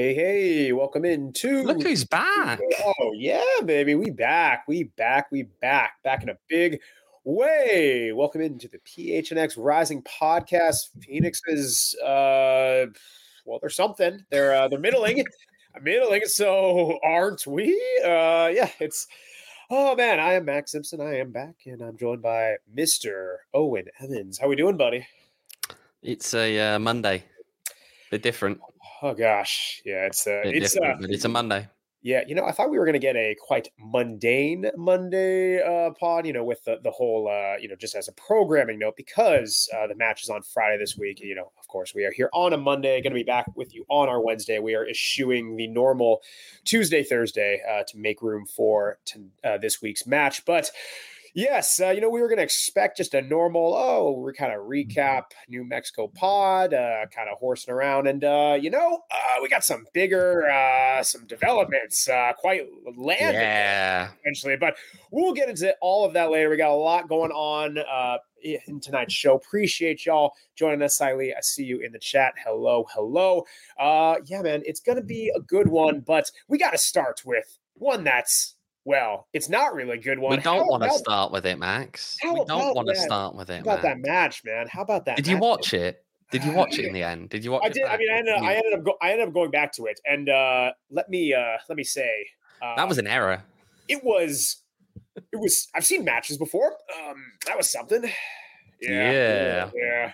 Hey, welcome Look into. who's back. Oh yeah, baby, we back, back in a big way. Welcome into the PHNX Rising podcast. Phoenix is well, they're something. They're middling. So aren't we? Yeah, it's. Oh man, I am Max Simpson. I am back, and I'm joined by Mr. Owen Evans. How we doing, buddy? It's a Monday. Bit different. Oh gosh, yeah, But it's a Monday. Yeah, I thought we were going to get a quite mundane Monday pod, with the whole, just as a programming note, because the match is on Friday this week. Of course, we are here on a Monday, going to be back with you on our Wednesday. We are eschewing the normal Tuesday, Thursday to make room for this week's match. But yes, we were going to expect just a normal, we're kind of recap New Mexico pod, kind of horsing around. And, we got some bigger, some developments, quite landed eventually. But we'll get into all of that later. We got a lot going on in tonight's show. Appreciate y'all joining us, Siley. I see you in the chat. Hello. Yeah, man, it's going to be a good one. But we got to start with one that's, well, it's not really a good one. We don't want to start with it, Max. We don't want to start with it. How about that match, man? How about that? Did you watch it? Did you watch it in the end? Did you watch it? I did. I mean, I ended up going back to it, and let me say that was an error. It was. I've seen matches before. That was something. Yeah.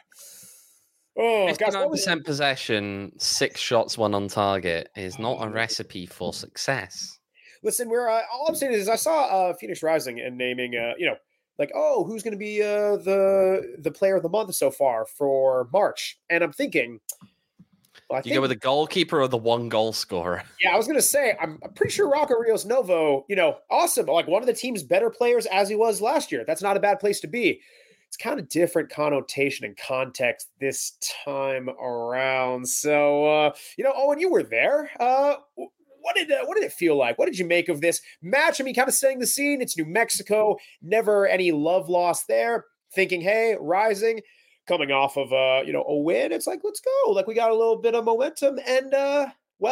Oh, 59% possession, 6 shots, 1 on target is not a recipe for success. Listen, all I'm saying is I saw Phoenix Rising and naming, who's going to be the player of the month so far for March, and I'm thinking, you go with the goalkeeper or the 1 goal scorer? Yeah, I was going to say I'm pretty sure Rocco Rios Novo, awesome, like one of the team's better players as he was last year. That's not a bad place to be. It's kind of different connotation and context this time around. So, Owen, you were there. What did it feel like? What did you make of this match? I mean, kind of setting the scene. It's New Mexico. Never any love lost there. Thinking, hey, Rising, coming off of a win. It's like, let's go. Like we got a little bit of momentum. And no.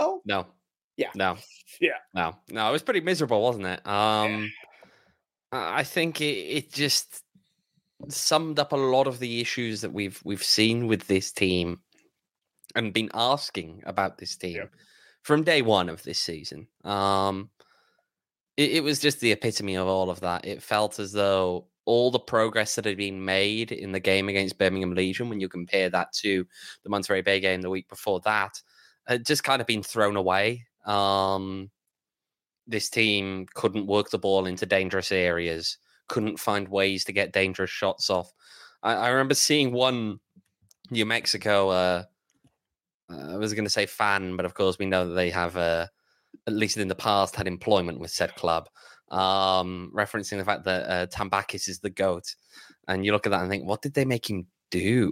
It was pretty miserable, wasn't it? I think it just summed up a lot of the issues that we've seen with this team and been asking about this team. Yeah. From day one of this season. It was just the epitome of all of that. It felt as though all the progress that had been made in the game against Birmingham Legion, when you compare that to the Monterey Bay game the week before that, had just kind of been thrown away. This team couldn't work the ball into dangerous areas, couldn't find ways to get dangerous shots off. I remember seeing one New Mexico... I was going to say fan, but of course we know that they have, at least in the past, had employment with said club, referencing the fact that Tambakis is the GOAT. And you look at that and think, what did they make him do?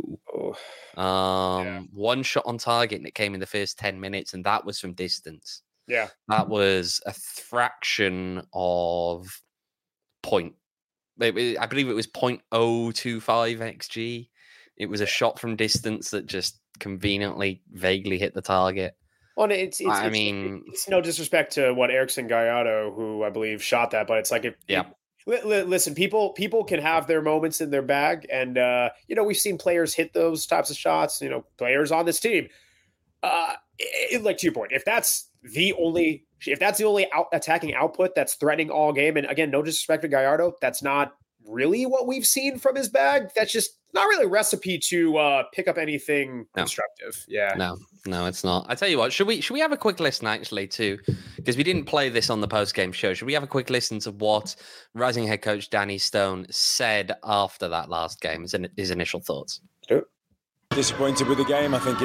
1 shot on target, and it came in the first 10 minutes, and that was from distance. Yeah. That was a fraction of point. I believe it was 0.025 XG. It was a shot from distance that just conveniently, vaguely hit the target. Well, it's no disrespect to what Erickson Gallardo, who I believe shot that, but it's like listen, people can have their moments in their bag, and we've seen players hit those types of shots. Players on this team. Like to your point, if that's the only attacking output that's threatening all game, and again, no disrespect to Gallardo, that's not really what we've seen from his bag. That's just not really a recipe to pick up anything constructive. Yeah. No, it's not. I tell you what, should we have a quick listen actually too? Because we didn't play this on the post-game show. Should we have a quick listen to what Rising head coach Danny Stone said after that last game, his initial thoughts? Sure. Disappointed with the game. I think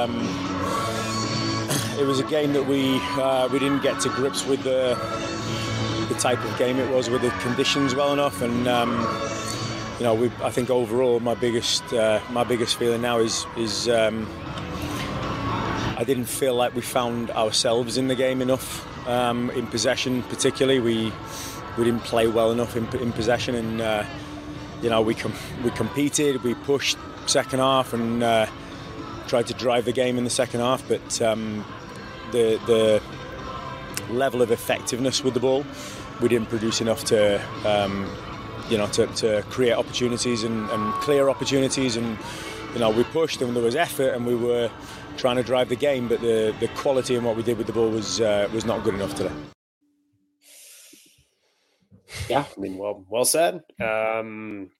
it was a game that we didn't get to grips with the type of game it was, with the conditions well enough, and I think overall my biggest feeling now is I didn't feel like we found ourselves in the game enough, in possession particularly. We didn't play well enough in possession, and we competed, we pushed second half and tried to drive the game in the second half, but the level of effectiveness with the ball. We didn't produce enough to create opportunities and clear opportunities, and we pushed and there was effort and we were trying to drive the game, but the quality in what we did with the ball was not good enough today. Yeah, I mean, well said. Man,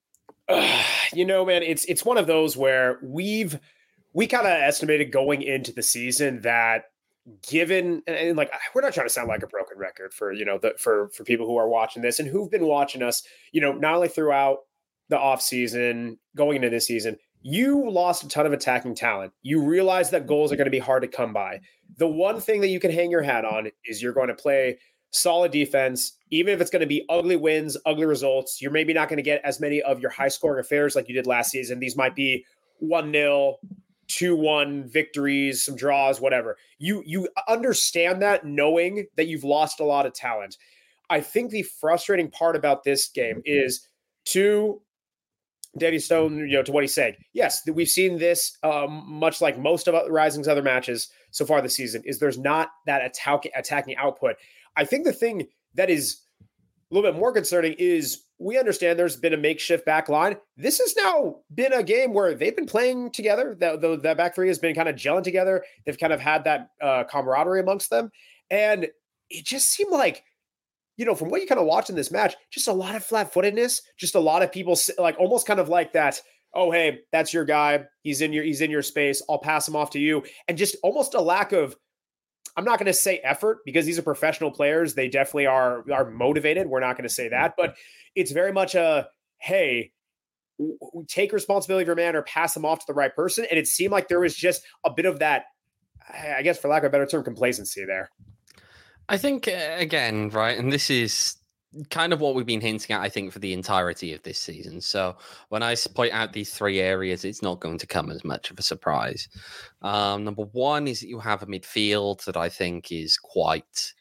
it's one of those where we kind of estimated going into the season that, given, and like, we're not trying to sound like a broken record for for people who are watching this and who've been watching us, not only throughout the offseason, going into this season, you lost a ton of attacking talent. You realize that goals are going to be hard to come by. The one thing that you can hang your hat on is you're going to play solid defense, even if it's going to be ugly wins, ugly results. You're maybe not going to get as many of your high-scoring affairs like you did last season. These might be 1-0, 2-1 victories, some draws, whatever. You understand that, knowing that you've lost a lot of talent. I think the frustrating part about this game is, to Danny Stone, to what he's saying, yes, we've seen this much like most of Rising's other matches so far this season, is there's not that attacking output. I think the thing that is a little bit more concerning is we understand there's been a makeshift back line. This has now been a game where they've been playing together. The back three has been kind of gelling together. They've kind of had that camaraderie amongst them. And it just seemed like, from what you kind of watched in this match, just a lot of flat-footedness, just a lot of people like almost kind of like that, oh, hey, that's your guy. He's in your space. I'll pass him off to you. And just almost a lack of, I'm not going to say effort, because these are professional players. They definitely are motivated. We're not going to say that, but it's very much a, hey, take responsibility of your man or pass them off to the right person. And it seemed like there was just a bit of that, I guess, for lack of a better term, complacency there. I think, again, right, and this is kind of what we've been hinting at, I think, for the entirety of this season. So when I point out these three areas, it's not going to come as much of a surprise. Number one is that you have a midfield that I think is quite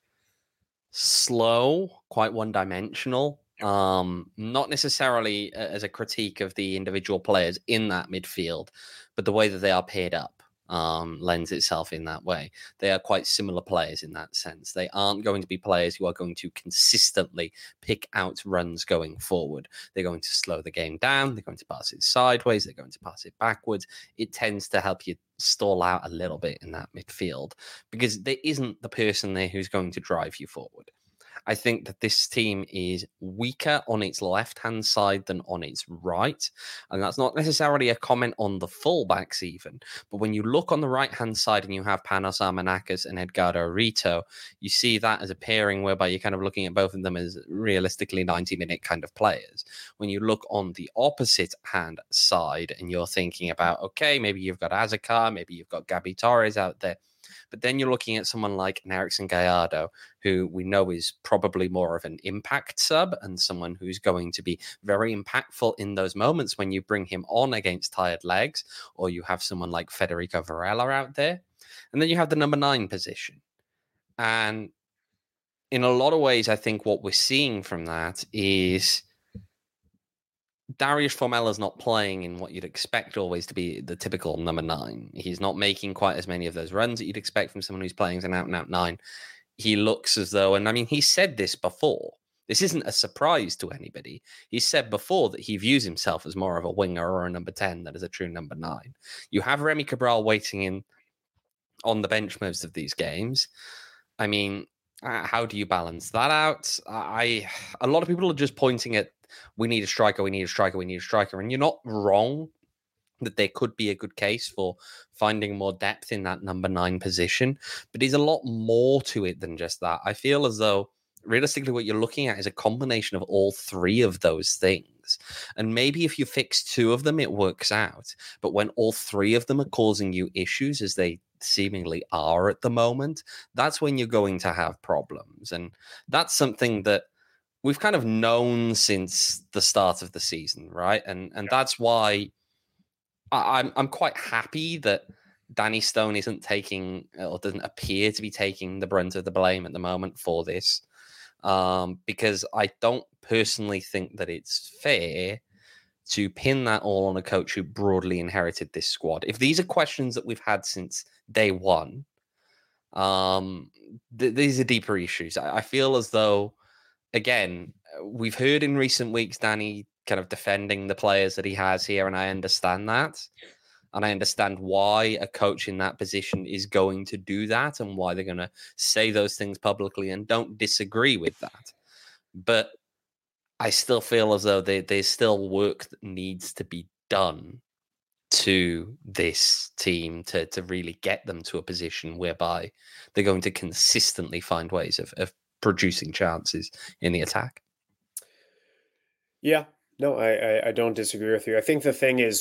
slow, quite one-dimensional. Not necessarily as a critique of the individual players in that midfield, but the way that they are paired up lends itself in that way. They are quite similar players in that sense. They aren't going to be players who are going to consistently pick out runs going forward. They're going to slow the game down. They're going to pass it sideways. They're going to pass it backwards. It tends to help you stall out a little bit in that midfield because there isn't the person there who's going to drive you forward. I think that this team is weaker on its left-hand side than on its right. And that's not necessarily a comment on the fullbacks even. But when you look on the right-hand side and you have Panos Armenakis and Edgardo Rito, you see that as a pairing whereby you're kind of looking at both of them as realistically 90-minute kind of players. When you look on the opposite hand side and you're thinking about, okay, maybe you've got Azakar, maybe you've got Gabi Torres out there. But then you're looking at someone like an Erickson Gallardo, who we know is probably more of an impact sub and someone who's going to be very impactful in those moments when you bring him on against tired legs, or you have someone like Federico Varela out there. And then you have the number 9 position. And in a lot of ways, I think what we're seeing from that is Darius Formela's not playing in what you'd expect always to be the typical number 9. He's not making quite as many of those runs that you'd expect from someone who's playing as an out-and-out 9. He looks as though, and I mean, he said this before. This isn't a surprise to anybody. He said before that he views himself as more of a winger or a number 10 than as a true number 9. You have Remy Cabral waiting in on the bench most of these games. I mean, how do you balance that out? A lot of people are just pointing at, we need a striker, we need a striker, we need a striker. And you're not wrong that there could be a good case for finding more depth in that number 9 position. But there's a lot more to it than just that. I feel as though, realistically, what you're looking at is a combination of all three of those things. And maybe if you fix 2 of them, it works out. But when all 3 of them are causing you issues, as they seemingly are at the moment, that's when you're going to have problems. And that's something that we've kind of known since the start of the season, right? And that's why I'm quite happy that Danny Stone isn't taking, or doesn't appear to be taking, the brunt of the blame at the moment for this, because I don't personally think that it's fair to pin that all on a coach who broadly inherited this squad. If these are questions that we've had since day one, These are deeper issues. I feel as though, again, we've heard in recent weeks Danny kind of defending the players that he has here, and I understand that. And I understand why a coach in that position is going to do that and why they're going to say those things publicly, and don't disagree with that. But I still feel as though there's still work that needs to be done to this team to really get them to a position whereby they're going to consistently find ways of producing chances in the attack. Yeah, no, I don't disagree with you. I think the thing is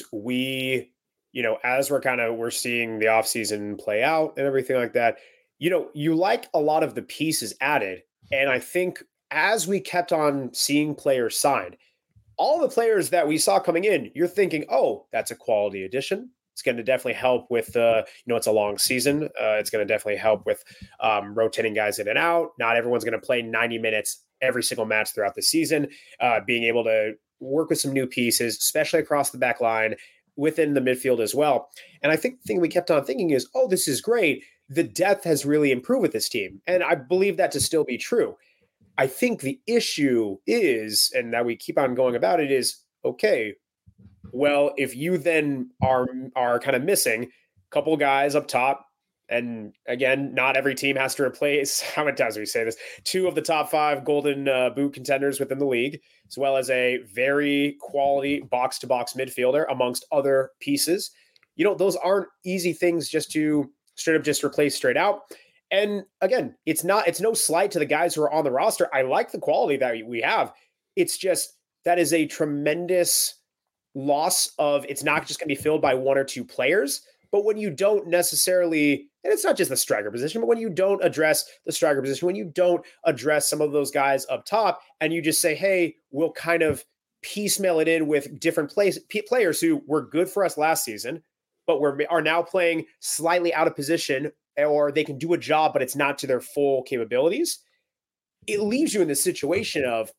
as we're seeing the offseason play out and everything like that, you like a lot of the pieces added. And I think as we kept on seeing players signed, all the players that we saw coming in, you're thinking, oh, that's a quality addition. It's going to definitely help with, it's a long season. It's going to definitely help with rotating guys in and out. Not everyone's going to play 90 minutes every single match throughout the season. Being able to work with some new pieces, especially across the back line, within the midfield as well. And I think the thing we kept on thinking is, oh, this is great. The depth has really improved with this team. And I believe that to still be true. I think the issue is, and that we keep on going about it, is, okay, well, if you then are kind of missing a couple guys up top, and again, not every team has to replace, how many times do we say this, 2 of the top 5 golden boot contenders within the league, as well as a very quality box-to-box midfielder amongst other pieces. Those aren't easy things just to straight up replace straight out. And again, it's no slight to the guys who are on the roster. I like the quality that we have. It's just that is a tremendous loss of, it's not just going to be filled by 1 or 2 players. But when you don't necessarily, and it's not just the striker position, but when you don't address the striker position, when you don't address some of those guys up top, and you just say, hey, we'll kind of piecemeal it in with different players who were good for us last season, but are now playing slightly out of position, or they can do a job, but it's not to their full capabilities, it leaves you in this situation of,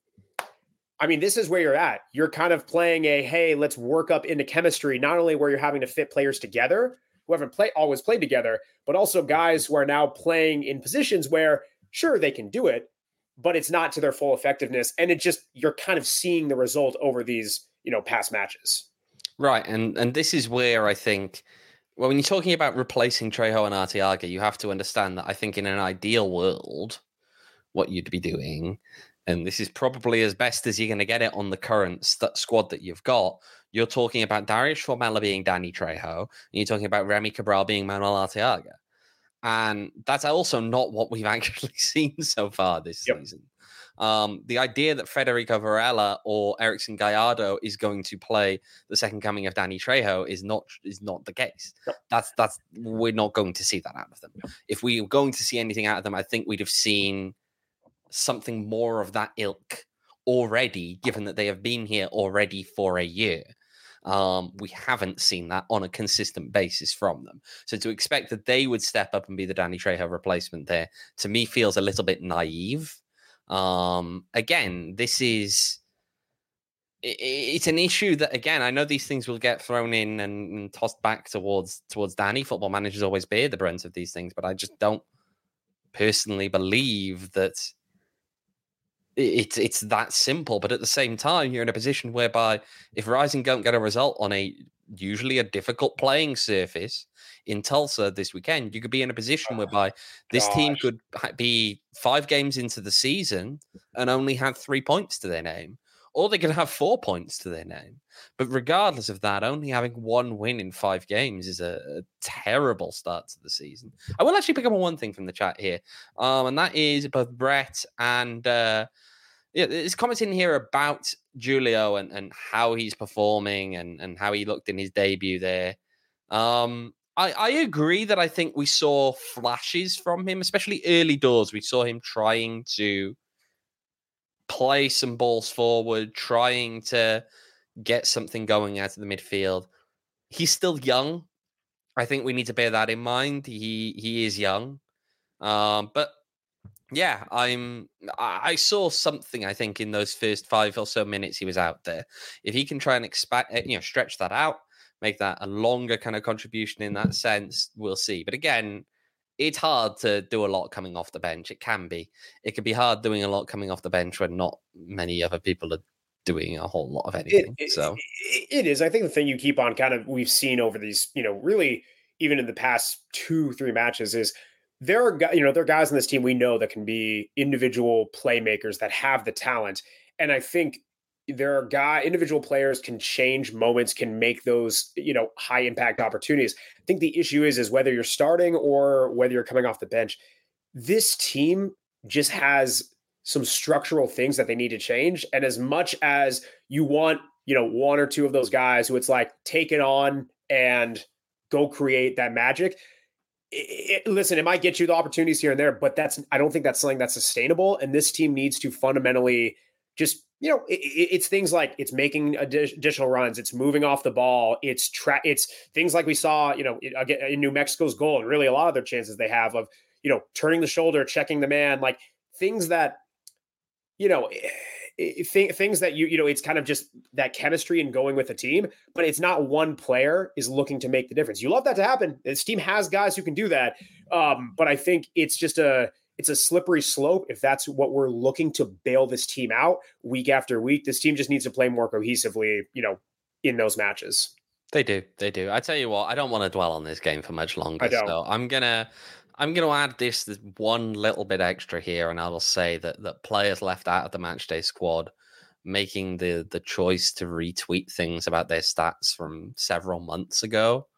this is where you're at. You're kind of playing hey, let's work up into chemistry, not only where you're having to fit players together who haven't always played together, but also guys who are now playing in positions where, sure, they can do it, but it's not to their full effectiveness. And you're kind of seeing the result over these, past matches. Right. And this is where I think, when you're talking about replacing Trejo and Arteaga, you have to understand that I think in an ideal world, what you'd be doing, and this is probably as best as you're going to get it on the current squad that you've got, you're talking about Darius Formella being Danny Trejo, and you're talking about Remy Cabral being Manuel Arteaga. And that's also not what we've actually seen so far this season. The idea that Federico Varela or Erickson Gallardo is going to play the second coming of Danny Trejo is not the case. That's we're not going to see that out of them. If we were going to see anything out of them, I think we'd have seen something more of that ilk already, given that they have been here already for a year. We haven't seen that on a consistent basis from them. So to expect that they would step up and be the Danny Trejo replacement there, to me, feels a little bit naive. Again, it's an issue that, again, I know these things will get thrown in and tossed back towards Danny. Football managers always bear the brunt of these things, but I just don't personally believe that it's that simple. But at the same time, you're in a position whereby if Rising don't get a result on usually a difficult playing surface in Tulsa this weekend, you could be in a position whereby this team could be 5 games into the season and only have 3 points to their name, or they could have 4 points to their name. But regardless of that, only having 1 win in 5 games is a terrible start to the season. I will actually pick up on one thing from the chat here, and that is both Brett and there's comments in here about Julio and how he's performing and how he looked in his debut there. I agree that I think we saw flashes from him, especially early doors. We saw him trying to play some balls forward, trying to get something going out of the midfield. He's still young. I think we need to bear that in mind. He is young. But yeah, I saw something, I think, in those first 5 or so minutes he was out there. If he can try and stretch that out, make that a longer kind of contribution in that sense, we'll see. But again, it's hard to do a lot coming off the bench. It can be. It can be hard doing a lot coming off the bench when not many other people are doing a whole lot of anything. It is. I think the thing you keep on we've seen over these, really even in the past 2-3 matches is there are guys on this team we know that can be individual playmakers that have the talent. And I think there are individual players can change moments, can make those, high impact opportunities. I think the issue is whether you're starting or whether you're coming off the bench. This team just has some structural things that they need to change. And as much as you want, one or two of those guys who it's like, take it on and go create that magic. Listen, it might get you the opportunities here and there, but I don't think that's something that's sustainable. And this team needs to fundamentally just, it's things like it's making additional runs, it's moving off the ball, it's things like we saw, in New Mexico's goal, and really a lot of their chances they have of, turning the shoulder, checking the man, like things that, things that it's kind of just that chemistry and going with a team, but it's not one player is looking to make the difference. You love that to happen. This team has guys who can do that. But I think it's just it's a slippery slope. If that's what we're looking to bail this team out week after week, this team just needs to play more cohesively, in those matches. They do. I tell you what, I don't want to dwell on this game for much longer. So I'm gonna add this one little bit extra here, and I'll say that players left out of the matchday squad making the choice to retweet things about their stats from several months ago.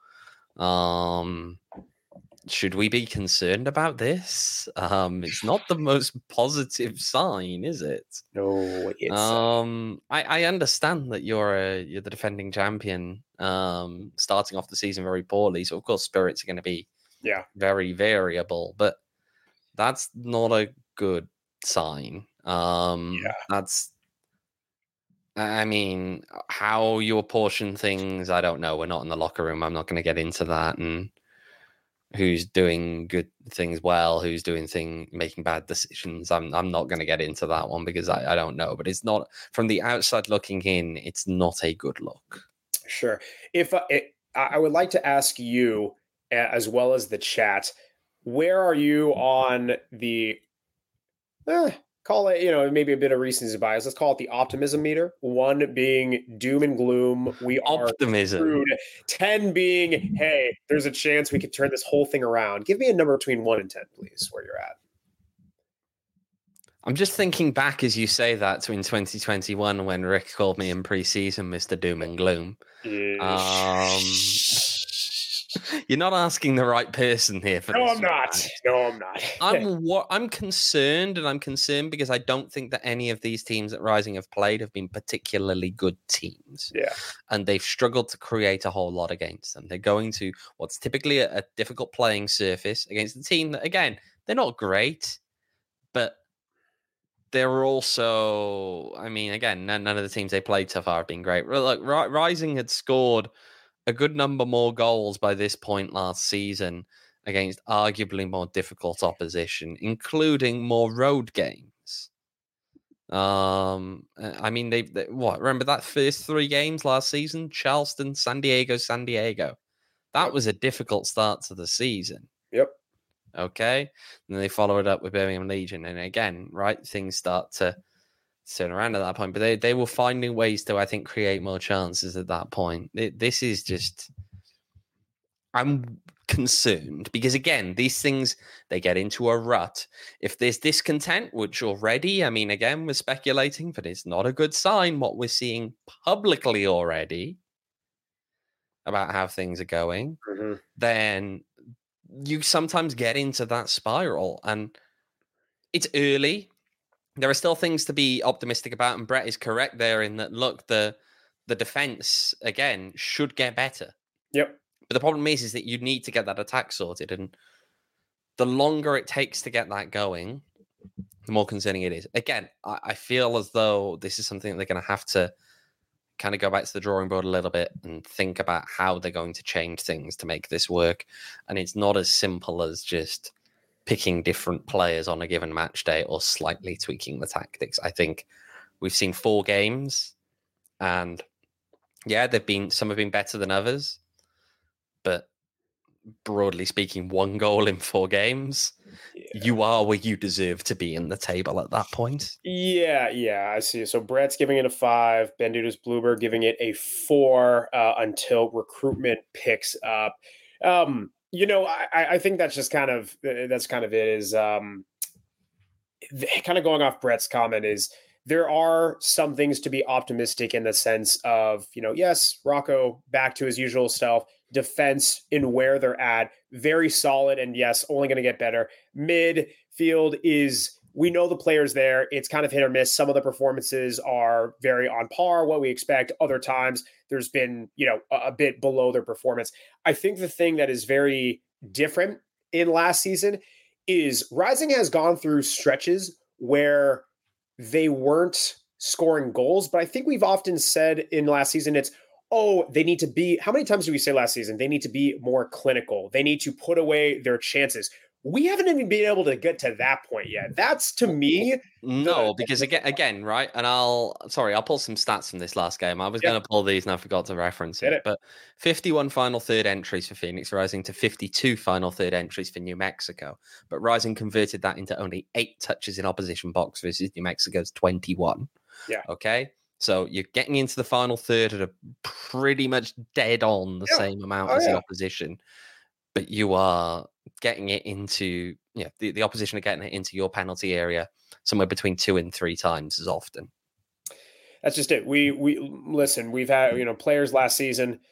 Should we be concerned about this? It's not the most positive sign, is it? No, it's I understand that you're the defending champion, starting off the season very poorly, so of course spirits are going to be very variable, but that's not a good sign. That's, I mean, how you apportion things, I don't know. We're not in the locker room. I'm not going to get into that, and who's doing good things well, who's making bad decisions. I'm not going to get into that one because I don't know, but it's not, from the outside looking in, it's not a good look. Sure. If I would like to ask you, as well as the chat, where are you on the call it, maybe a bit of recency bias, let's call it the optimism meter? 1 being doom and gloom, we are optimism. 10 being, hey, there's a chance we could turn this whole thing around. Give me a number between 1 and 10, please, where you're at. I'm just thinking back as you say that to in 2021 when Rick called me in preseason Mr. Doom and Gloom. You're not asking the right person here for this. I'm not. No, I'm not. I'm concerned, and I'm concerned because I don't think that any of these teams that Rising have played have been particularly good teams. Yeah. And they've struggled to create a whole lot against them. They're going to what's typically a difficult playing surface against a team that, again, they're not great, but they're also, I mean, again, none of the teams they played so far have been great. Look, Rising had scored a good number more goals by this point last season against arguably more difficult opposition, including more road games. I mean, they remember that first 3 games last season? Charleston, San Diego. That was a difficult start to the season. Yep. Okay. And then they follow it up with Birmingham Legion. And again, right, things start to turn around at that point, but they were finding ways to, I think, create more chances at that point. This is just, I'm concerned because, again, these things, they get into a rut. If there's discontent, which already, I mean, again, we're speculating, but it's not a good sign what we're seeing publicly already about how things are going, then you sometimes get into that spiral, and it's early. There are still things to be optimistic about, and Brett is correct there in that, look, the defense, again, should get better. Yep. But the problem is that you need to get that attack sorted, and the longer it takes to get that going, the more concerning it is. Again, I feel as though this is something that they're going to have to kind of go back to the drawing board a little bit and think about how they're going to change things to make this work. And it's not as simple as just picking different players on a given match day or slightly tweaking the tactics. I think we've seen 4 games, and yeah, some have been better than others, but broadly speaking, 1 goal in 4 games, you are where you deserve to be in the table at that point. Yeah, I see. So Brett's giving it a 5. Banditas Bluebird giving it a 4 until recruitment picks up. I think that's just kind of it. Is kind of going off Brett's comment is there are some things to be optimistic in the sense of, yes, Rocco back to his usual self, defense in where they're at, very solid, and yes, only going to get better. Midfield is, we know the players there. It's kind of hit or miss. Some of the performances are very on par, what we expect. Other times there's been, a bit below their performance. I think the thing that is very different in last season is Rising has gone through stretches where they weren't scoring goals, but I think we've often said in last season, they need to be, how many times did we say last season? They need to be more clinical. They need to put away their chances. We haven't even been able to get to that point yet. That's, to me, because again, right? And I'll pull some stats from this last game. I was going to pull these and I forgot to reference it. But 51 final third entries for Phoenix Rising to 52 final third entries for New Mexico. But Rising converted that into only 8 touches in opposition box versus New Mexico's 21. Yeah. Okay. So you're getting into the final third at a pretty much dead on the same amount as the opposition. But you are getting it into, the opposition are getting it into your penalty area somewhere between 2 and 3 times as often. That's just it. We listen, we've had, players last season,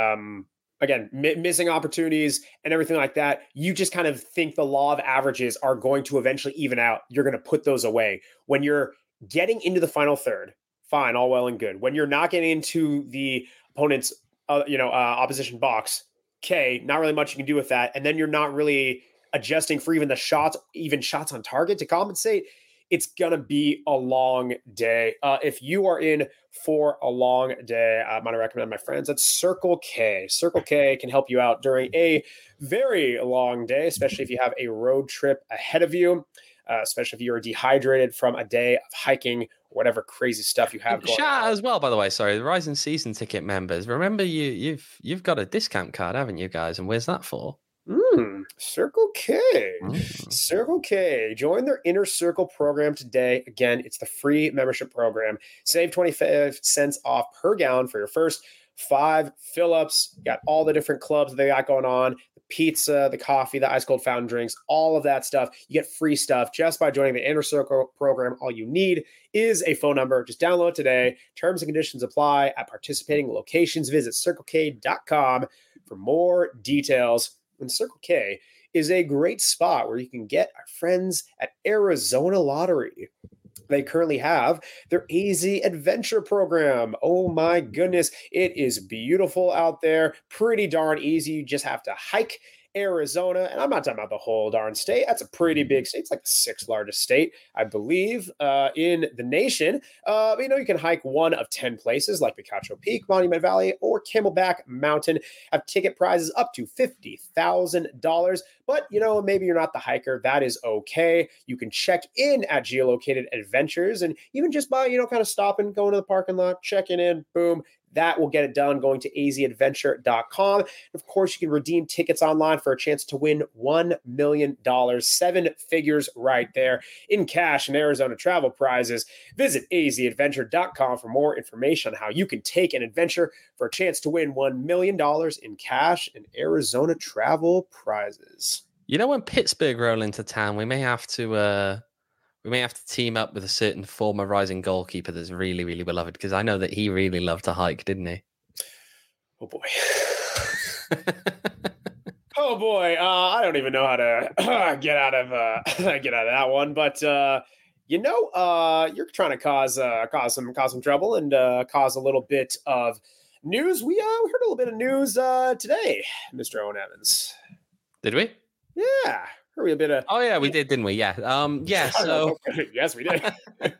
again, missing opportunities and everything like that. You just kind of think the law of averages are going to eventually even out. You're going to put those away. When you're getting into the final third, fine, all well and good. When you're not getting into the opponent's, opposition box, okay, not really much you can do with that. And then you're not really adjusting for even shots on target to compensate. It's going to be a long day. If you are in for a long day, I'm going to recommend my friends at Circle K. Circle K can help you out during a very long day, especially if you have a road trip ahead of you, especially if you're dehydrated from a day of hiking, whatever crazy stuff you have going Shout on. out as well, by the way, sorry, the Rising season ticket members. Remember, you've got a discount card, haven't you guys? And where's that for? Circle K. Circle K. Join their Inner Circle program today. Again, it's the free membership program. Save 25 cents off per gallon for your first 5 fill-ups. You got all the different clubs they got going on. The pizza, the coffee, the ice cold fountain drinks, all of that stuff. You get free stuff just by joining the Inner Circle program. All you need is a phone number. Just download today. Terms and conditions apply at participating locations. Visit CircleK.com for more details. And Circle K is a great spot where you can get our friends at Arizona Lottery. They currently have their AZ Adventure program. Oh my goodness, it is beautiful out there. Pretty darn easy. You just have to hike Arizona, and I'm not talking about the whole darn state. That's a pretty big state. It's like the 6th largest state, I believe, in the nation. You can hike one of 10 places like Picacho Peak, Monument Valley, or Camelback Mountain. Have ticket prizes up to $50,000. But, maybe you're not the hiker. That is okay. You can check in at Geolocated Adventures, and even just by, kind of stopping, going to the parking lot, checking in, boom. That will get it done going to azadventure.com. Of course, you can redeem tickets online for a chance to win $1 million, 7 figures right there in cash and Arizona travel prizes. Visit azadventure.com for more information on how you can take an adventure for a chance to win $1 million in cash and Arizona travel prizes. When Pittsburgh roll into town, we may have to team up with a certain former Rising goalkeeper that's really, really beloved, because I know that he really loved to hike, didn't he? Oh, boy. Oh, boy. I don't even know how to get out of that one. But, you're trying to cause some trouble and cause a little bit of news. We heard a little bit of news today, Mr. Owen Evans. Did we? Yeah. A bit of... Oh yeah, we did, didn't we? Yeah. So yes, we did.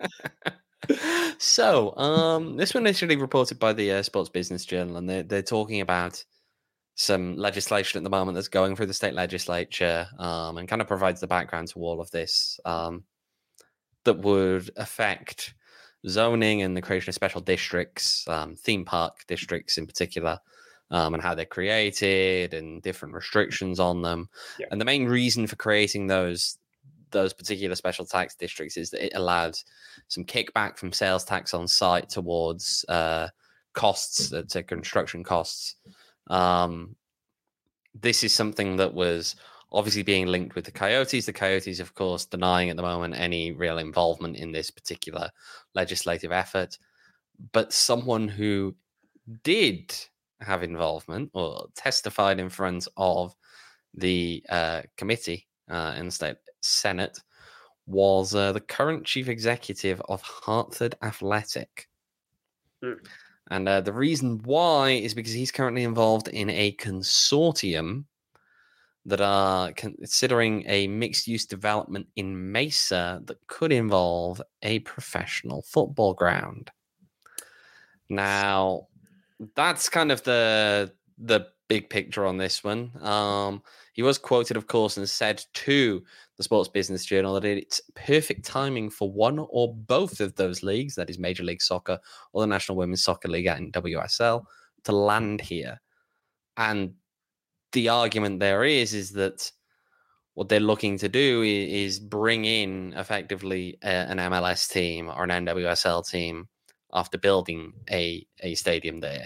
So this one initially reported by the Sports Business Journal, and they're talking about some legislation at the moment that's going through the state legislature, and kind of provides the background to all of this, that would affect zoning and the creation of special districts, theme park districts in particular, and how they're created and different restrictions on them. Yeah. And the main reason for creating those particular special tax districts is that it allowed some kickback from sales tax on site towards costs, to construction costs. This is something that was obviously being linked with the Coyotes. The Coyotes, of course, denying at the moment any real involvement in this particular legislative effort. But someone who did have involvement or testified in front of the committee in the state Senate was the current chief executive of Hartford Athletic. And the reason why is because he's currently involved in a consortium that are considering a mixed-use development in Mesa that could involve a professional football ground. Now, that's kind of the big picture on this one. He was quoted, of course, and said to the Sports Business Journal that it's perfect timing for one or both of those leagues, that is Major League Soccer or the National Women's Soccer League and WSL, to land here. And the argument there is that what they're looking to do is bring in effectively an MLS team or an NWSL team after building a stadium there.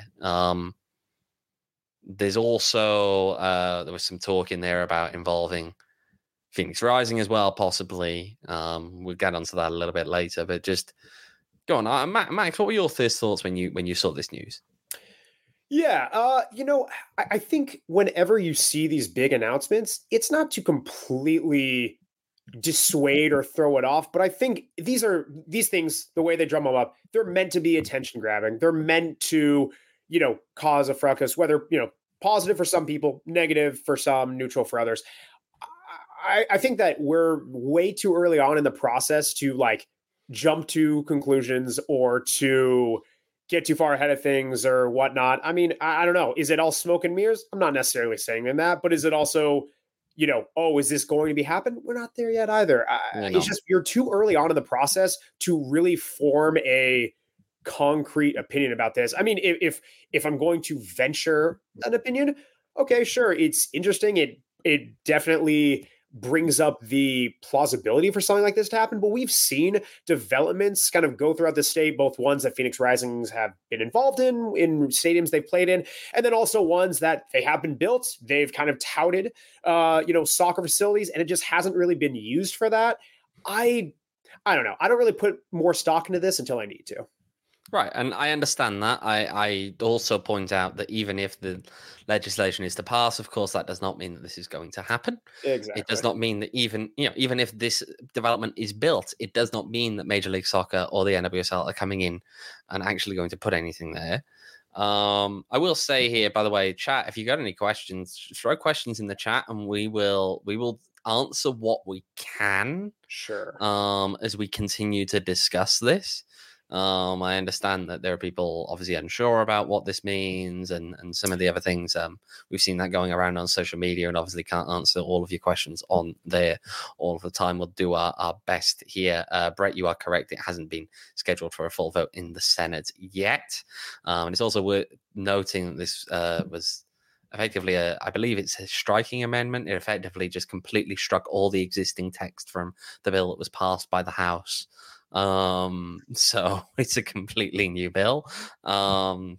There's also there was some talk in there about involving Phoenix Rising as well, possibly. We'll get onto that a little bit later, but just go on, Max. What were your first thoughts when you saw this news? Yeah, I think whenever you see these big announcements, it's not to completely dissuade or throw it off, but I think these things, the way they drum them up, they're meant to be attention grabbing. They're meant to, cause a fracas, whether, positive for some people, negative for some, neutral for others. I think that we're way too early on in the process to jump to conclusions or to get too far ahead of things or whatnot. I mean, I don't know. Is it all smoke and mirrors? I'm not necessarily saying that, but is it also, is this going to be happen? We're not there yet either. It's just, you're too early on in the process to really form a concrete opinion about this. I mean, if I'm going to venture an opinion, okay, sure. It's interesting. It definitely brings up the plausibility for something like this to happen. But we've seen developments kind of go throughout the state, both ones that Phoenix Risings have been involved in stadiums they've played in, and then also ones that they have been built. They've kind of touted, soccer facilities, and it just hasn't really been used for that. I don't know. I don't really put more stock into this until I need to. Right, and I understand that. I also point out that even if the legislation is to pass, of course, that does not mean that this is going to happen. Exactly. It does not mean that even if this development is built, it does not mean that Major League Soccer or the NWSL are coming in and actually going to put anything there. I will say here, by the way, chat, if you got any questions, throw questions in the chat, and we will answer what we can. Sure. As we continue to discuss this. I understand that there are people obviously unsure about what this means and some of the other things. We've seen that going around on social media, and obviously can't answer all of your questions on there all of the time. We'll do our best here. Brett, you are correct. It hasn't been scheduled for a full vote in the Senate yet. And it's also worth noting that this was effectively I believe it's a striking amendment. It effectively just completely struck all the existing text from the bill that was passed by the House. So it's a completely new bill. That's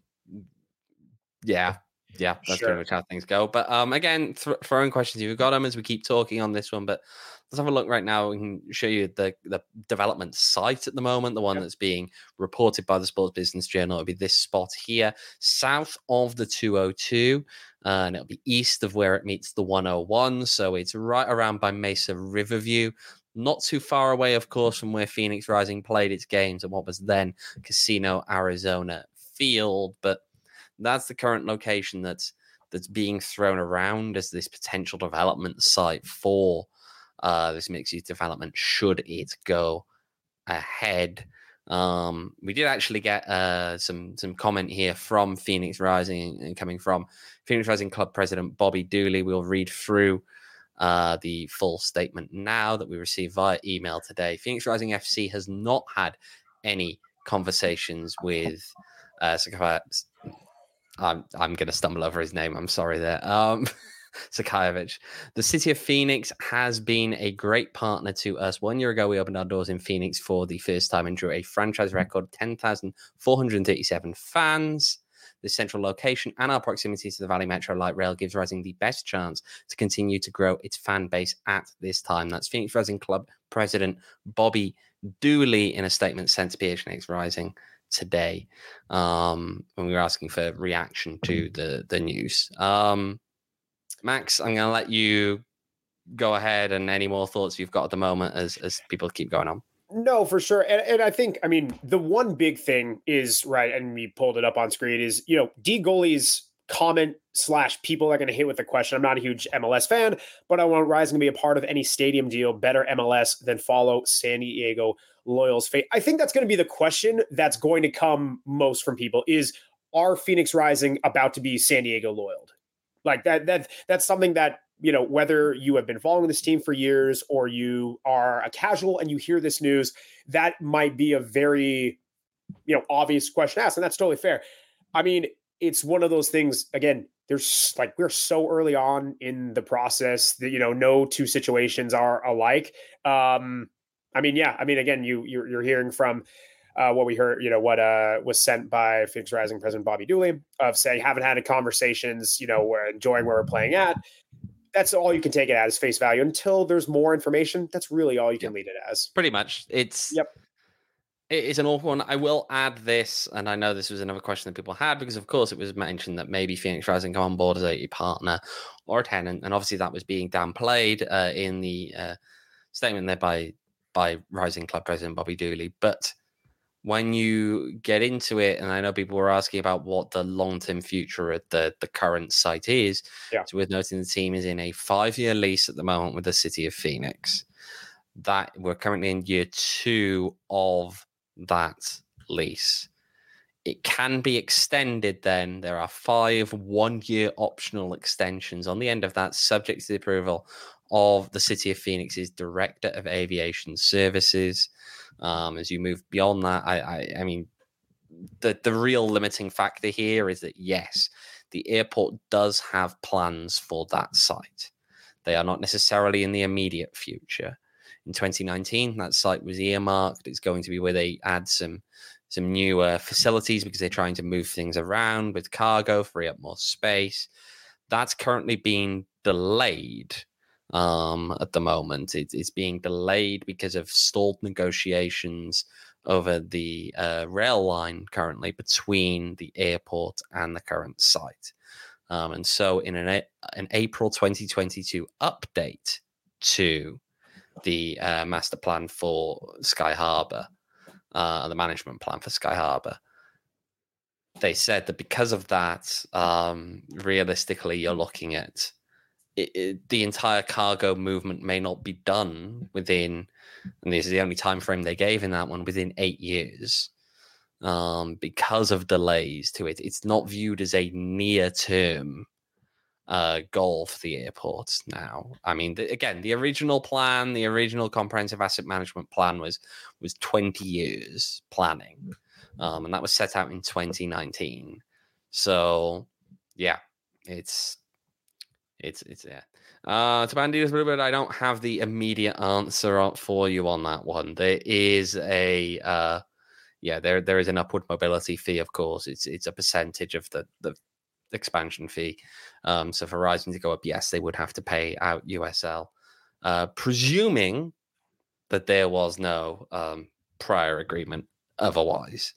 pretty much how things go. But again, throwing questions, you've got them as we keep talking on this one. But let's have a look right now. We can show you the development site at the moment, the one that's being reported by the Sports Business Journal. It'll be this spot here, south of the 202, and it'll be east of where it meets the 101. So it's right around by Mesa Riverview. Not too far away, of course, from where Phoenix Rising played its games at what was then Casino Arizona Field. But that's the current location that's being thrown around as this potential development site for this mixed-use development, should it go ahead. We did actually get some comment here from Phoenix Rising, and coming from Phoenix Rising Club President Bobby Dooley. We'll read through the full statement now that we received via email today. Phoenix Rising FC has not had any conversations with I'm going to stumble over his name. I'm sorry there. Sakajevic. The city of Phoenix has been a great partner to us. 1 year ago, we opened our doors in Phoenix for the first time and drew a franchise record 10,437 fans. The central location and our proximity to the Valley Metro Light Rail gives Rising the best chance to continue to grow its fan base at this time. That's Phoenix Rising Club President Bobby Dooley in a statement sent to PHNX Rising today when we were asking for reaction to the news. Max, I'm going to let you go ahead, and any more thoughts you've got at the moment as people keep going on. No, for sure. And I think, I mean, the one big thing is, right, and we pulled it up on screen, is, D Goalie's comment / people are going to hit with the question. I'm not a huge MLS fan, but I want Rising to be a part of any stadium deal. Better MLS than follow San Diego Loyal's fate. I think that's going to be the question that's going to come most from people is, are Phoenix Rising about to be San Diego Loyal? Like that's something that, whether you have been following this team for years or you are a casual and you hear this news, that might be a very, obvious question asked. And that's totally fair. I mean, it's one of those things, again, we're so early on in the process that, no two situations are alike. Again, you're hearing from what we heard, what was sent by Phoenix Rising President Bobby Dooley of saying, haven't had conversations, we're enjoying where we're playing at. That's all you can take it as face value until there's more information. That's really all you can lead it as. Pretty much. It's an awful one. I will add this, and I know this was another question that people had because, of course, it was mentioned that maybe Phoenix Rising come on board as a partner or a tenant, and obviously that was being downplayed in the statement there by Rising Club President Bobby Dooley. But when you get into it, and I know people were asking about what the long-term future of the current site is, so we're noting the team is in a 5-year lease at the moment with the city of Phoenix. That we're currently in year 2 of that lease. It can be extended then. There are 5 1-year optional extensions on the end of that, subject to the approval of the city of Phoenix's Director of Aviation Services. As you move beyond that, I mean, the real limiting factor here is that, yes, the airport does have plans for that site. They are not necessarily in the immediate future. In 2019, that site was earmarked. It's going to be where they add some new facilities because they're trying to move things around with cargo, free up more space. That's currently being delayed at the moment. It's being delayed because of stalled negotiations over the rail line currently between the airport and the current site. And so in an April 2022 update to the master plan for Sky Harbor, the management plan for Sky Harbor, they said that because of that, realistically, you're looking at the entire cargo movement may not be done within, and this is the only time frame they gave in that one, within 8 years, because of delays to it. It's not viewed as a near-term goal for the airport now. I mean, again, the original plan, the original comprehensive asset management plan was 20 years planning, and that was set out in 2019. So, yeah, it's to Bandidos Bluebird, I don't have the immediate answer for you on that one. There is there is an upward mobility fee, of course. It's a percentage of the expansion fee. So for Rising to go up, yes, they would have to pay out USL, presuming that there was no prior agreement otherwise.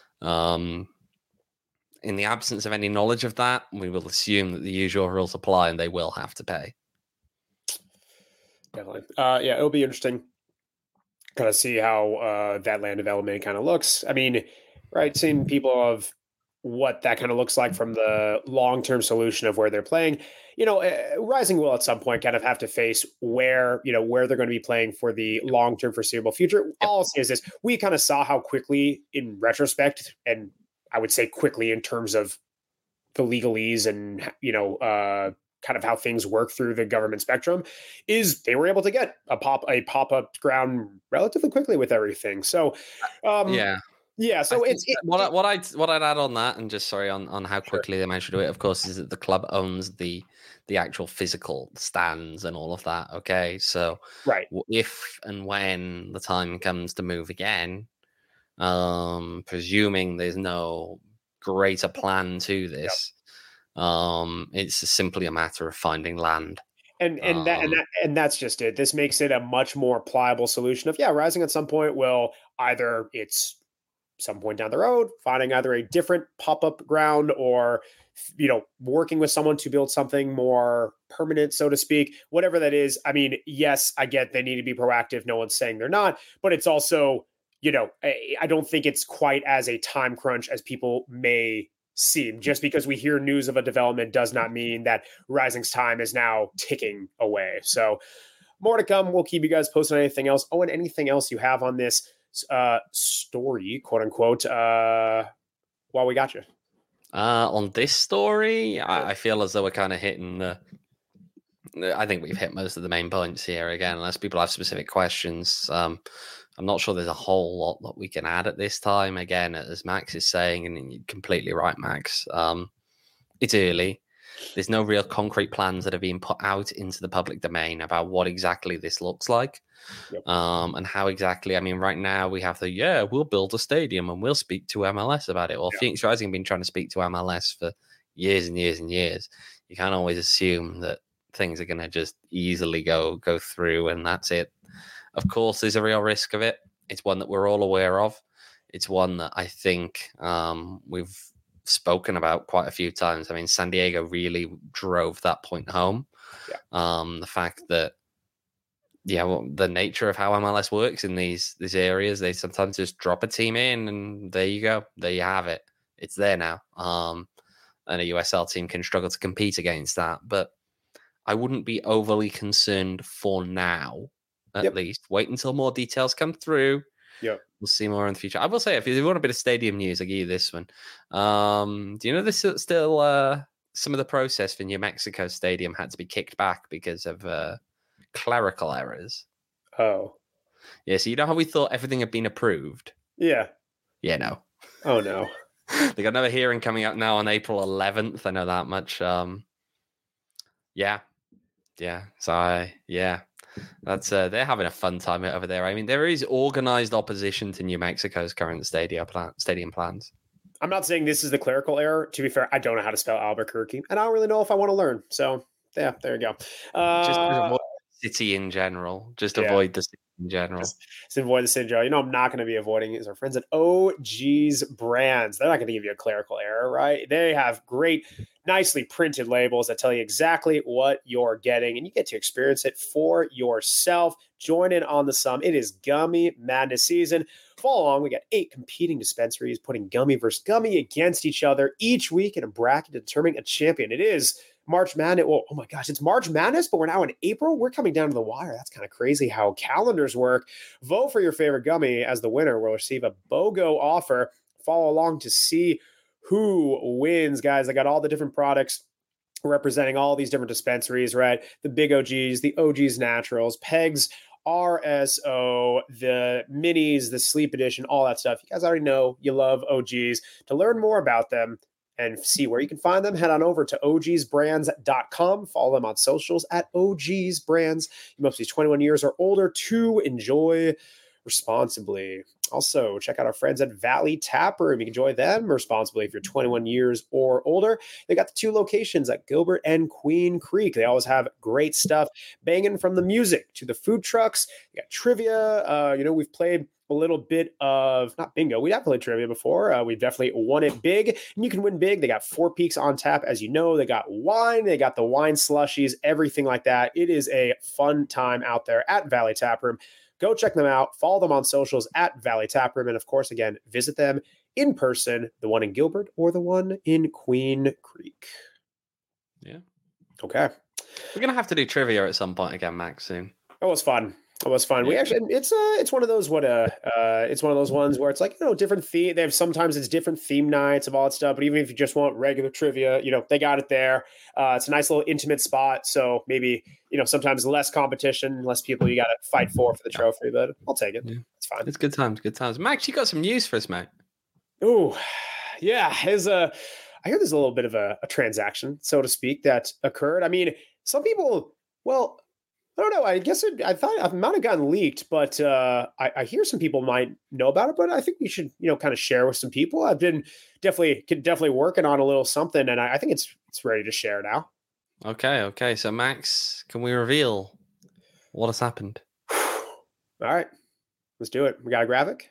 In the absence of any knowledge of that, we will assume that the usual rules apply and they will have to pay. Definitely. It'll be interesting kind of see how that land development kind of looks. I mean, right, seeing people of what that kind of looks like from the long-term solution of where they're playing. Rising will at some point kind of have to face where they're going to be playing for the long-term foreseeable future. Yep. All I'll say is this: we kind of saw how quickly, in retrospect, and I would say quickly in terms of the legalese and, kind of how things work through the government spectrum, is they were able to get a pop-up ground relatively quickly with everything. So, yeah. Yeah, so what I'd add on that, and just sorry on how quickly they managed to do it, of course, is that the club owns the actual physical stands and all of that. Okay, so right. If and when the time comes to move again, presuming there's no greater plan to this, it's simply a matter of finding land. And that's just it. This makes it a much more pliable solution of Rising at some point will either it's some point down the road, finding either a different pop-up ground or working with someone to build something more permanent, so to speak, whatever that is. I mean, yes, I get they need to be proactive. No one's saying they're not, but it's also, I don't think it's quite as a time crunch as people may seem. Just because we hear news of a development does not mean that Rising's time is now ticking away. So more to come. We'll keep you guys posted on anything else. Oh, and anything else you have on this story, quote unquote, while we got you. On this story, I feel as though we're kind of hitting I think we've hit most of the main points here. Again, unless people have specific questions, I'm not sure there's a whole lot that we can add at this time. Again, as Max is saying, and you're completely right, Max, it's early. There's no real concrete plans that have been put out into the public domain about what exactly this looks like. Yep. And how exactly. I mean, right now we have we'll build a stadium and we'll speak to MLS about it. Well, Phoenix Rising have been trying to speak to MLS for years and years and years. You can't always assume that things are going to just easily go through and that's it. Of course, there's a real risk of it. It's one that we're all aware of. It's one that I think we've spoken about quite a few times. I mean, San Diego really drove that point home. The fact that the nature of how MLS works in these areas, they sometimes just drop a team in and there you go. There you have it. It's there now. And a USL team can struggle to compete against that. But I wouldn't be overly concerned for now, at least. Wait until more details come through. Yep. We'll see more in the future. I will say, if you want a bit of stadium news, I'll give you this one. Do you know this is still some of the process for New Mexico Stadium had to be kicked back because of clerical errors? Oh. Yeah, so you know how we thought everything had been approved? Yeah. Yeah, no. Oh, no. They got another hearing coming up now on April 11th. I know that much. Yeah. So, that's they're having a fun time over there. I mean, there is organized opposition to New Mexico's current stadium plans. I'm not saying this is the clerical error. To be fair, I don't know how to spell Albuquerque, and I don't really know if I want to learn. So, yeah, there you go. Just avoid the city in general. Just avoid the city in general. Just avoid the city in general. I'm not going to be avoiding is our friends at OG's Brands. They're not going to give you a clerical error, right? They have great, nicely printed labels that tell you exactly what you're getting, and you get to experience it for yourself. Join in on the sum. It is Gummy Madness season. Follow along. We got 8 competing dispensaries putting gummy versus gummy against each other each week in a bracket to determine a champion. It is March Madness. Well, oh my gosh, it's March Madness, but we're now in April. We're coming down to the wire. That's kind of crazy how calendars work. Vote for your favorite gummy as the winner will receive a BOGO offer. Follow along to see who wins, guys. I got all the different products representing all these different dispensaries, right? The Big OGs, the OGs Naturals, Pegs, RSO, the Minis, the Sleep Edition, all that stuff. You guys already know you love OGs. To learn more about them and see where you can find them, head on over to ogsbrands.com. Follow them on socials at ogsbrands. You must be 21 years or older to enjoy responsibly. Also, check out our friends at Valley Tap Room. You can enjoy them responsibly if you're 21 years or older. They got the 2 locations at Gilbert and Queen Creek. They always have great stuff, banging from the music to the food trucks. They got trivia. We've played a little bit of, not bingo, we have played trivia before. We've definitely won it big, and you can win big. They got 4 Peaks on tap, as you know. They got wine, they got the wine slushies, everything like that. It is a fun time out there at Valley Tap Room. Go check them out. Follow them on socials at Valley Tap Room. And of course, again, visit them in person, the one in Gilbert or the one in Queen Creek. Yeah. Okay. We're going to have to do trivia at some point again, Max, soon. It was fun. It was fun. We actually, it's one of those it's one of those ones where it's like, different theme. They have sometimes it's different theme nights of all that stuff. But even if you just want regular trivia, they got it there. It's a nice little intimate spot. So maybe sometimes less competition, less people you got to fight for the trophy. But I'll take it. Yeah. It's fine. It's good times. Good times. Max, you got some news for us, mate. Ooh, yeah. I hear there's a little bit of a transaction, so to speak, that occurred. I mean, some people, well, I don't know. I guess I thought it might have gotten leaked, but I hear some people might know about it. But I think we should, kind of share with some people. I've been definitely working on a little something, and I think it's ready to share now. Okay. So Max, can we reveal what has happened? All right, let's do it. We got a graphic.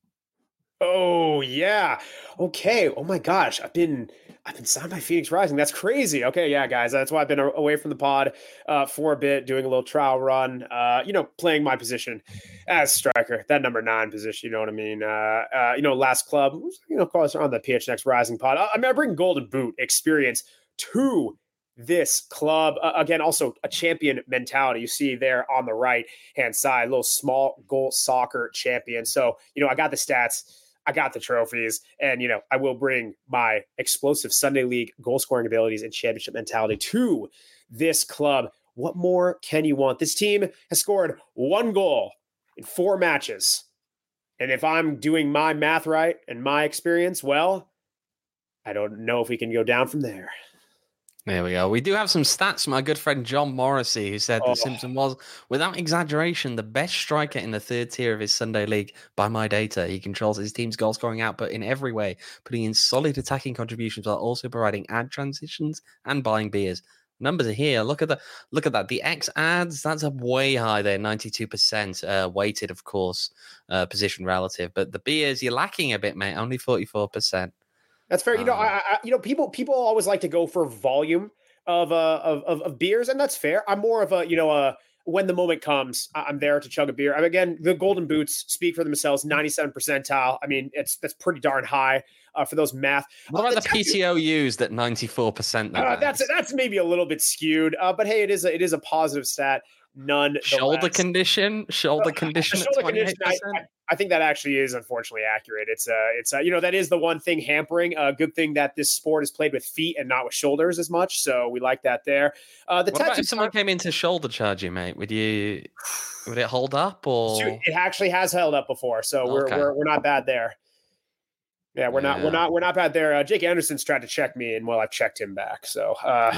Oh yeah. Okay. Oh my gosh. I've been signed by Phoenix Rising. That's crazy. Okay, yeah, guys. That's why I've been away from the pod for a bit, doing a little trial run. Playing my position as striker, that number 9 position. You know what I mean? Last club. Call us on the PHNX Rising pod. I bring Golden Boot experience to this club. Again, also a champion mentality. You see there on the right hand side, little small goal soccer champion. So I got the stats. I got the trophies, and I will bring my explosive Sunday League goal scoring abilities and championship mentality to this club. What more can you want? This team has scored 1 goal in 4 matches. And if I'm doing my math right and my experience, well, I don't know if we can go down from there. There we go. We do have some stats from our good friend John Morrissey, who said that Simpson was, without exaggeration, the best striker in the 3rd tier of his Sunday League by my data. He controls his team's goal scoring output in every way, putting in solid attacking contributions while also providing ad transitions and buying beers. Numbers are here. Look at that. The X ads, that's up way high there, 92% weighted, of course, position relative. But the beers, you're lacking a bit, mate. Only 44%. That's fair. People always like to go for volume of beers, and that's fair. I'm more of a when the moment comes, I'm there to chug a beer. Again, the Golden Boots speak for themselves. 97 percentile. I mean, that's pretty darn high for those math. What about the PTO used at 94%? That's maybe a little bit skewed, but hey, it is a positive stat. Shoulder condition. Shoulder condition. I think that actually is unfortunately accurate. It's that is the one thing hampering. Good thing that this sport is played with feet and not with shoulders as much. So we like that there. What about if someone came in to shoulder charge you, mate? Would it hold up or? It actually has held up before, so we're not bad there. Yeah, we're not bad there. Jake Anderson's tried to check me, and I've checked him back. So,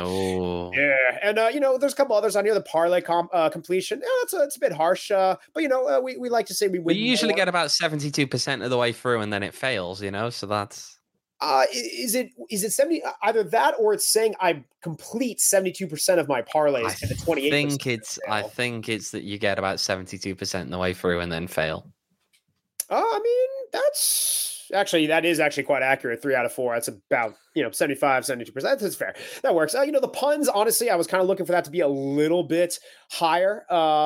yeah, and there's a couple others on here. The parlay completion, it's a bit harsh, but we like to say we win. We usually get about 72% of the way through, and then it fails. So that's. Is it 70? Either that, or it's saying I complete 72% of my parlays and the 28%. I think it's that you get about 72% of the way through and then fail. I mean, that is actually quite accurate. 3 out of 4. That's about 75, 72%. That's fair. That works. The puns, honestly, I was kind of looking for that to be a little bit higher.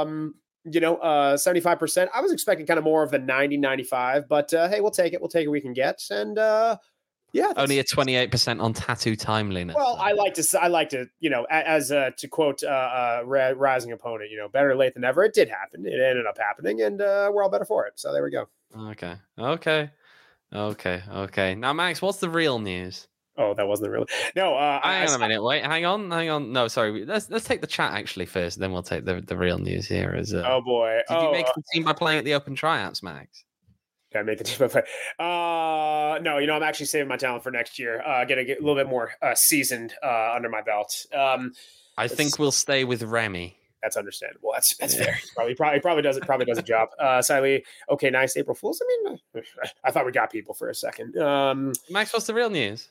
75%. I was expecting kind of more of the 90, 95, but hey, we'll take it. We'll take it we can get. And yeah, only a 28% on tattoo timeliness. Well, I like to, as to quote Rising Opponent, better late than never. It did happen. It ended up happening, and we're all better for it. So there we go. Okay. Now, Max, what's the real news? Oh, that wasn't the real. No, hang on a minute. Wait, hang on. No, sorry. Let's take the chat actually first, then we'll take the real news here. Oh boy! Did you make the team by playing at the Open Tryouts, Max? Can I make the team by play? No. I'm actually saving my talent for next year. Get a little bit more seasoned under my belt. I think we'll stay with Remy. That's understandable. That's fair. Probably does a job. Siley, okay, nice April Fools. I mean, I thought we got people for a second. Max, what's the real news?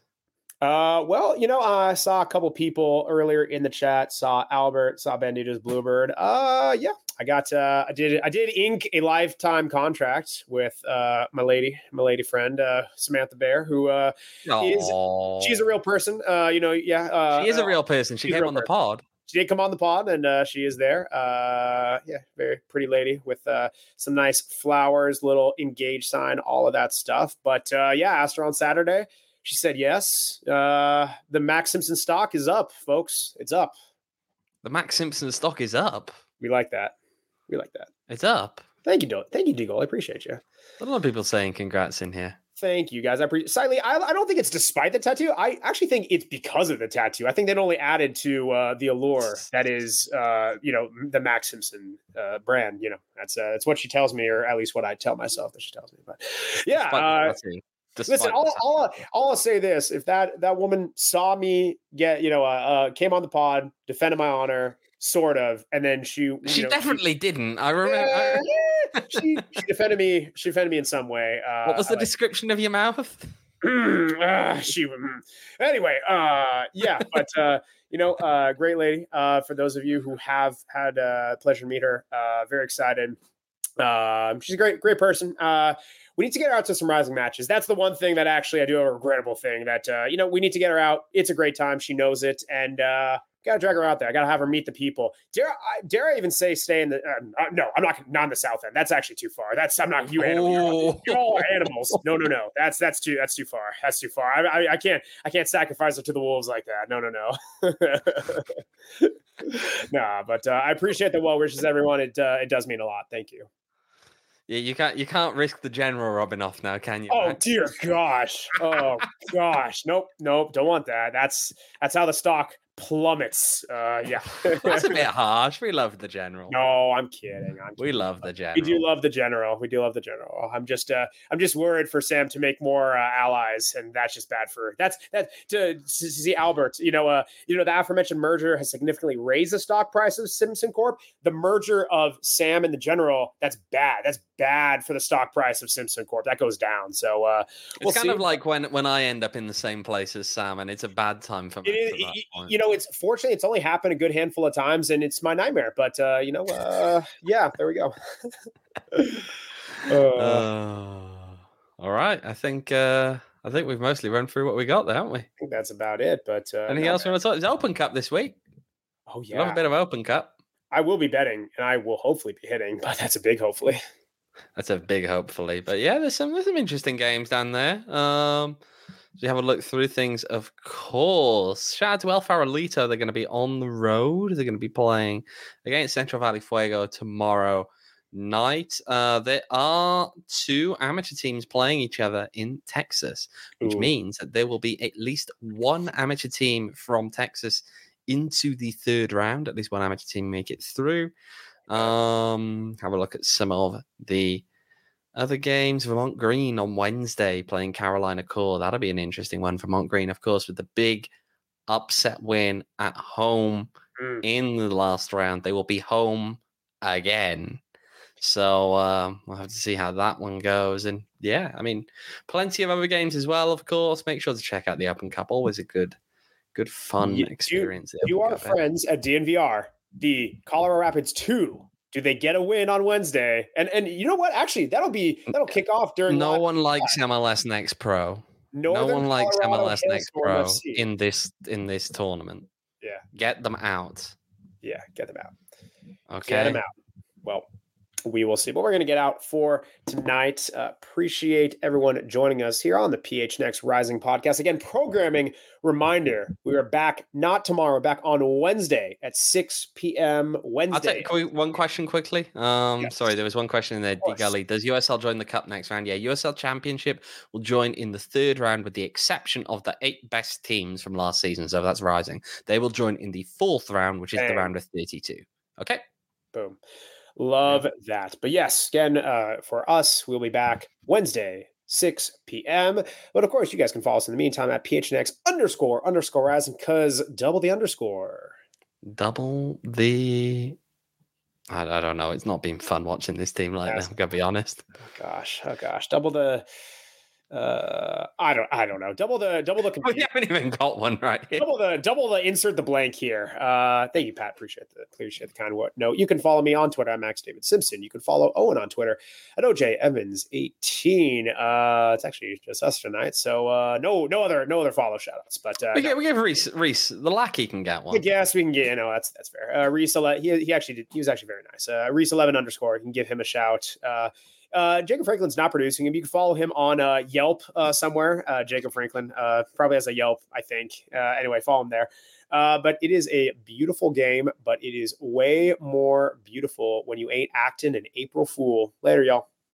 I saw a couple people earlier in the chat. Saw Albert. Saw Bandito's Bluebird. Yeah, I did ink a lifetime contract with my lady friend Samantha Bear, who she's a real person. She is a real person. She came on the pod. She did come on the pod, and she is there. Very pretty lady with some nice flowers, little engaged sign, all of that stuff. But asked her on Saturday. She said yes. The Max Simpson stock is up, folks. It's up. The Max Simpson stock is up. We like that. It's up. Thank you, Deagle. I appreciate you. A lot of people saying congrats in here. Thank you, guys. I appreciate. Siley, I don't think it's despite the tattoo. I actually think it's because of the tattoo. I think that only added to the allure that is, the Max Simpson brand. That's what she tells me, or at least what I tell myself that she tells me. But yeah, Listen, I'll say this: if that woman saw me get, came on the pod, defended my honor, sort of, and then she definitely didn't. I remember. She defended me. She defended me in some way. What was the description of your mouth? Anyway, yeah, but great lady. For those of you who have had pleasure to meet her, very excited. She's a great person. We need to get her out to some Rising matches. That's the one thing that actually I do have a regrettable thing that, we need to get her out. It's a great time. She knows it. And got to drag her out there. I got to have her meet the people. Dare I even say stay in the, no, I'm not in the South End. That's actually too far. I'm not, you animal. You're all animals. No. That's too far. That's too far. I can't sacrifice her to the wolves like that. No. Nah, but I appreciate the well wishes, everyone. It does mean a lot. Thank you. Yeah, you can't risk the general rubbing off now, can you? Oh, dear gosh. Oh gosh. Nope. Don't want that. That's how the stock plummets. Yeah. That's a bit harsh. We love the general. No, I'm kidding. We love the general. We do love the general. I'm just worried for Sam to make more allies, and that's just bad for to see Albert. The aforementioned merger has significantly raised the stock price of Simpson Corp. The merger of Sam and the general, that's bad. That's bad for the stock price of Simpson Corp. That goes down. So it's kind of like when I end up in the same place as Sam, and it's a bad time for me. It's fortunately it's only happened a good handful of times, and it's my nightmare. But yeah, there we go. All right, I think we've mostly run through what we got there, haven't we? I think that's about it. But anything else you want to talk? It's Open Cup this week. Oh yeah, love a bit of Open Cup. I will be betting, and I will hopefully be hitting, but that's a big hopefully. That's a big hopefully. But yeah, there's some interesting games down there. You have a look through things, of course. Shout out to El Farolito. They're going to be on the road. They're going to be playing against Central Valley Fuego tomorrow night. There are two amateur teams playing each other in Texas, which means that there will be at least one amateur team from Texas into the third round. At least one amateur team make it through. Have a look at some of the other games. Vermont Green on Wednesday playing Carolina Core. That'll be an interesting one. Vermont Green, of course, with the big upset win at home in the last round. They will be home again. So we'll have to see how that one goes. And yeah, I mean, plenty of other games as well, of course. Make sure to check out the Open Cup. Always a good fun experience. You are friends at DNVR. The Colorado Rapids 2. Do they get a win on Wednesday? And you know what? Actually, that'll kick off during. No one likes MLS Next Pro. No one likes MLS Next Pro in this tournament. Yeah, get them out. Yeah, get them out. Okay, get them out. Well, we will see. But we're going to get out for tonight. Appreciate everyone joining us here on the PHNX Rising podcast. Again, programming reminder, we are back not tomorrow, we're back on Wednesday at 6 p.m. Wednesday. I'll take one question quickly. Yes. Sorry, there was one question in there, D Gully. Does USL join the Cup next round? Yeah, USL Championship will join in the third round with the exception of the 8 best teams from last season. So that's Rising. They will join in the fourth round, which is the round of 32. Okay. Boom. Love that. But yes, again, for us, we'll be back Wednesday, 6 p.m. But of course, you guys can follow us in the meantime at PHNX__Rising, because double the underscore. Double the... I don't know. It's not been fun watching this team like that, I'm going to be honest. Oh gosh. Double the... I don't know. Double the. We haven't even got one right here. Double the. Insert the blank here. Thank you, Pat. Appreciate the kind word. No, you can follow me on Twitter at Max David Simpson. You can follow Owen on Twitter at OJ Evans 18. It's actually just us tonight, so no other follow shoutouts. But we give Reese the lackey can get one. Yes, we can get. That's fair. Reese, he was actually very nice. Reese 11 underscore. You can give him a shout. Jacob Franklin's not producing him. You can follow him on Yelp somewhere. Jacob Franklin probably has a Yelp, I think. Anyway, follow him there. But it is a beautiful game, but it is way more beautiful when you ain't acting an April Fool. Later, y'all.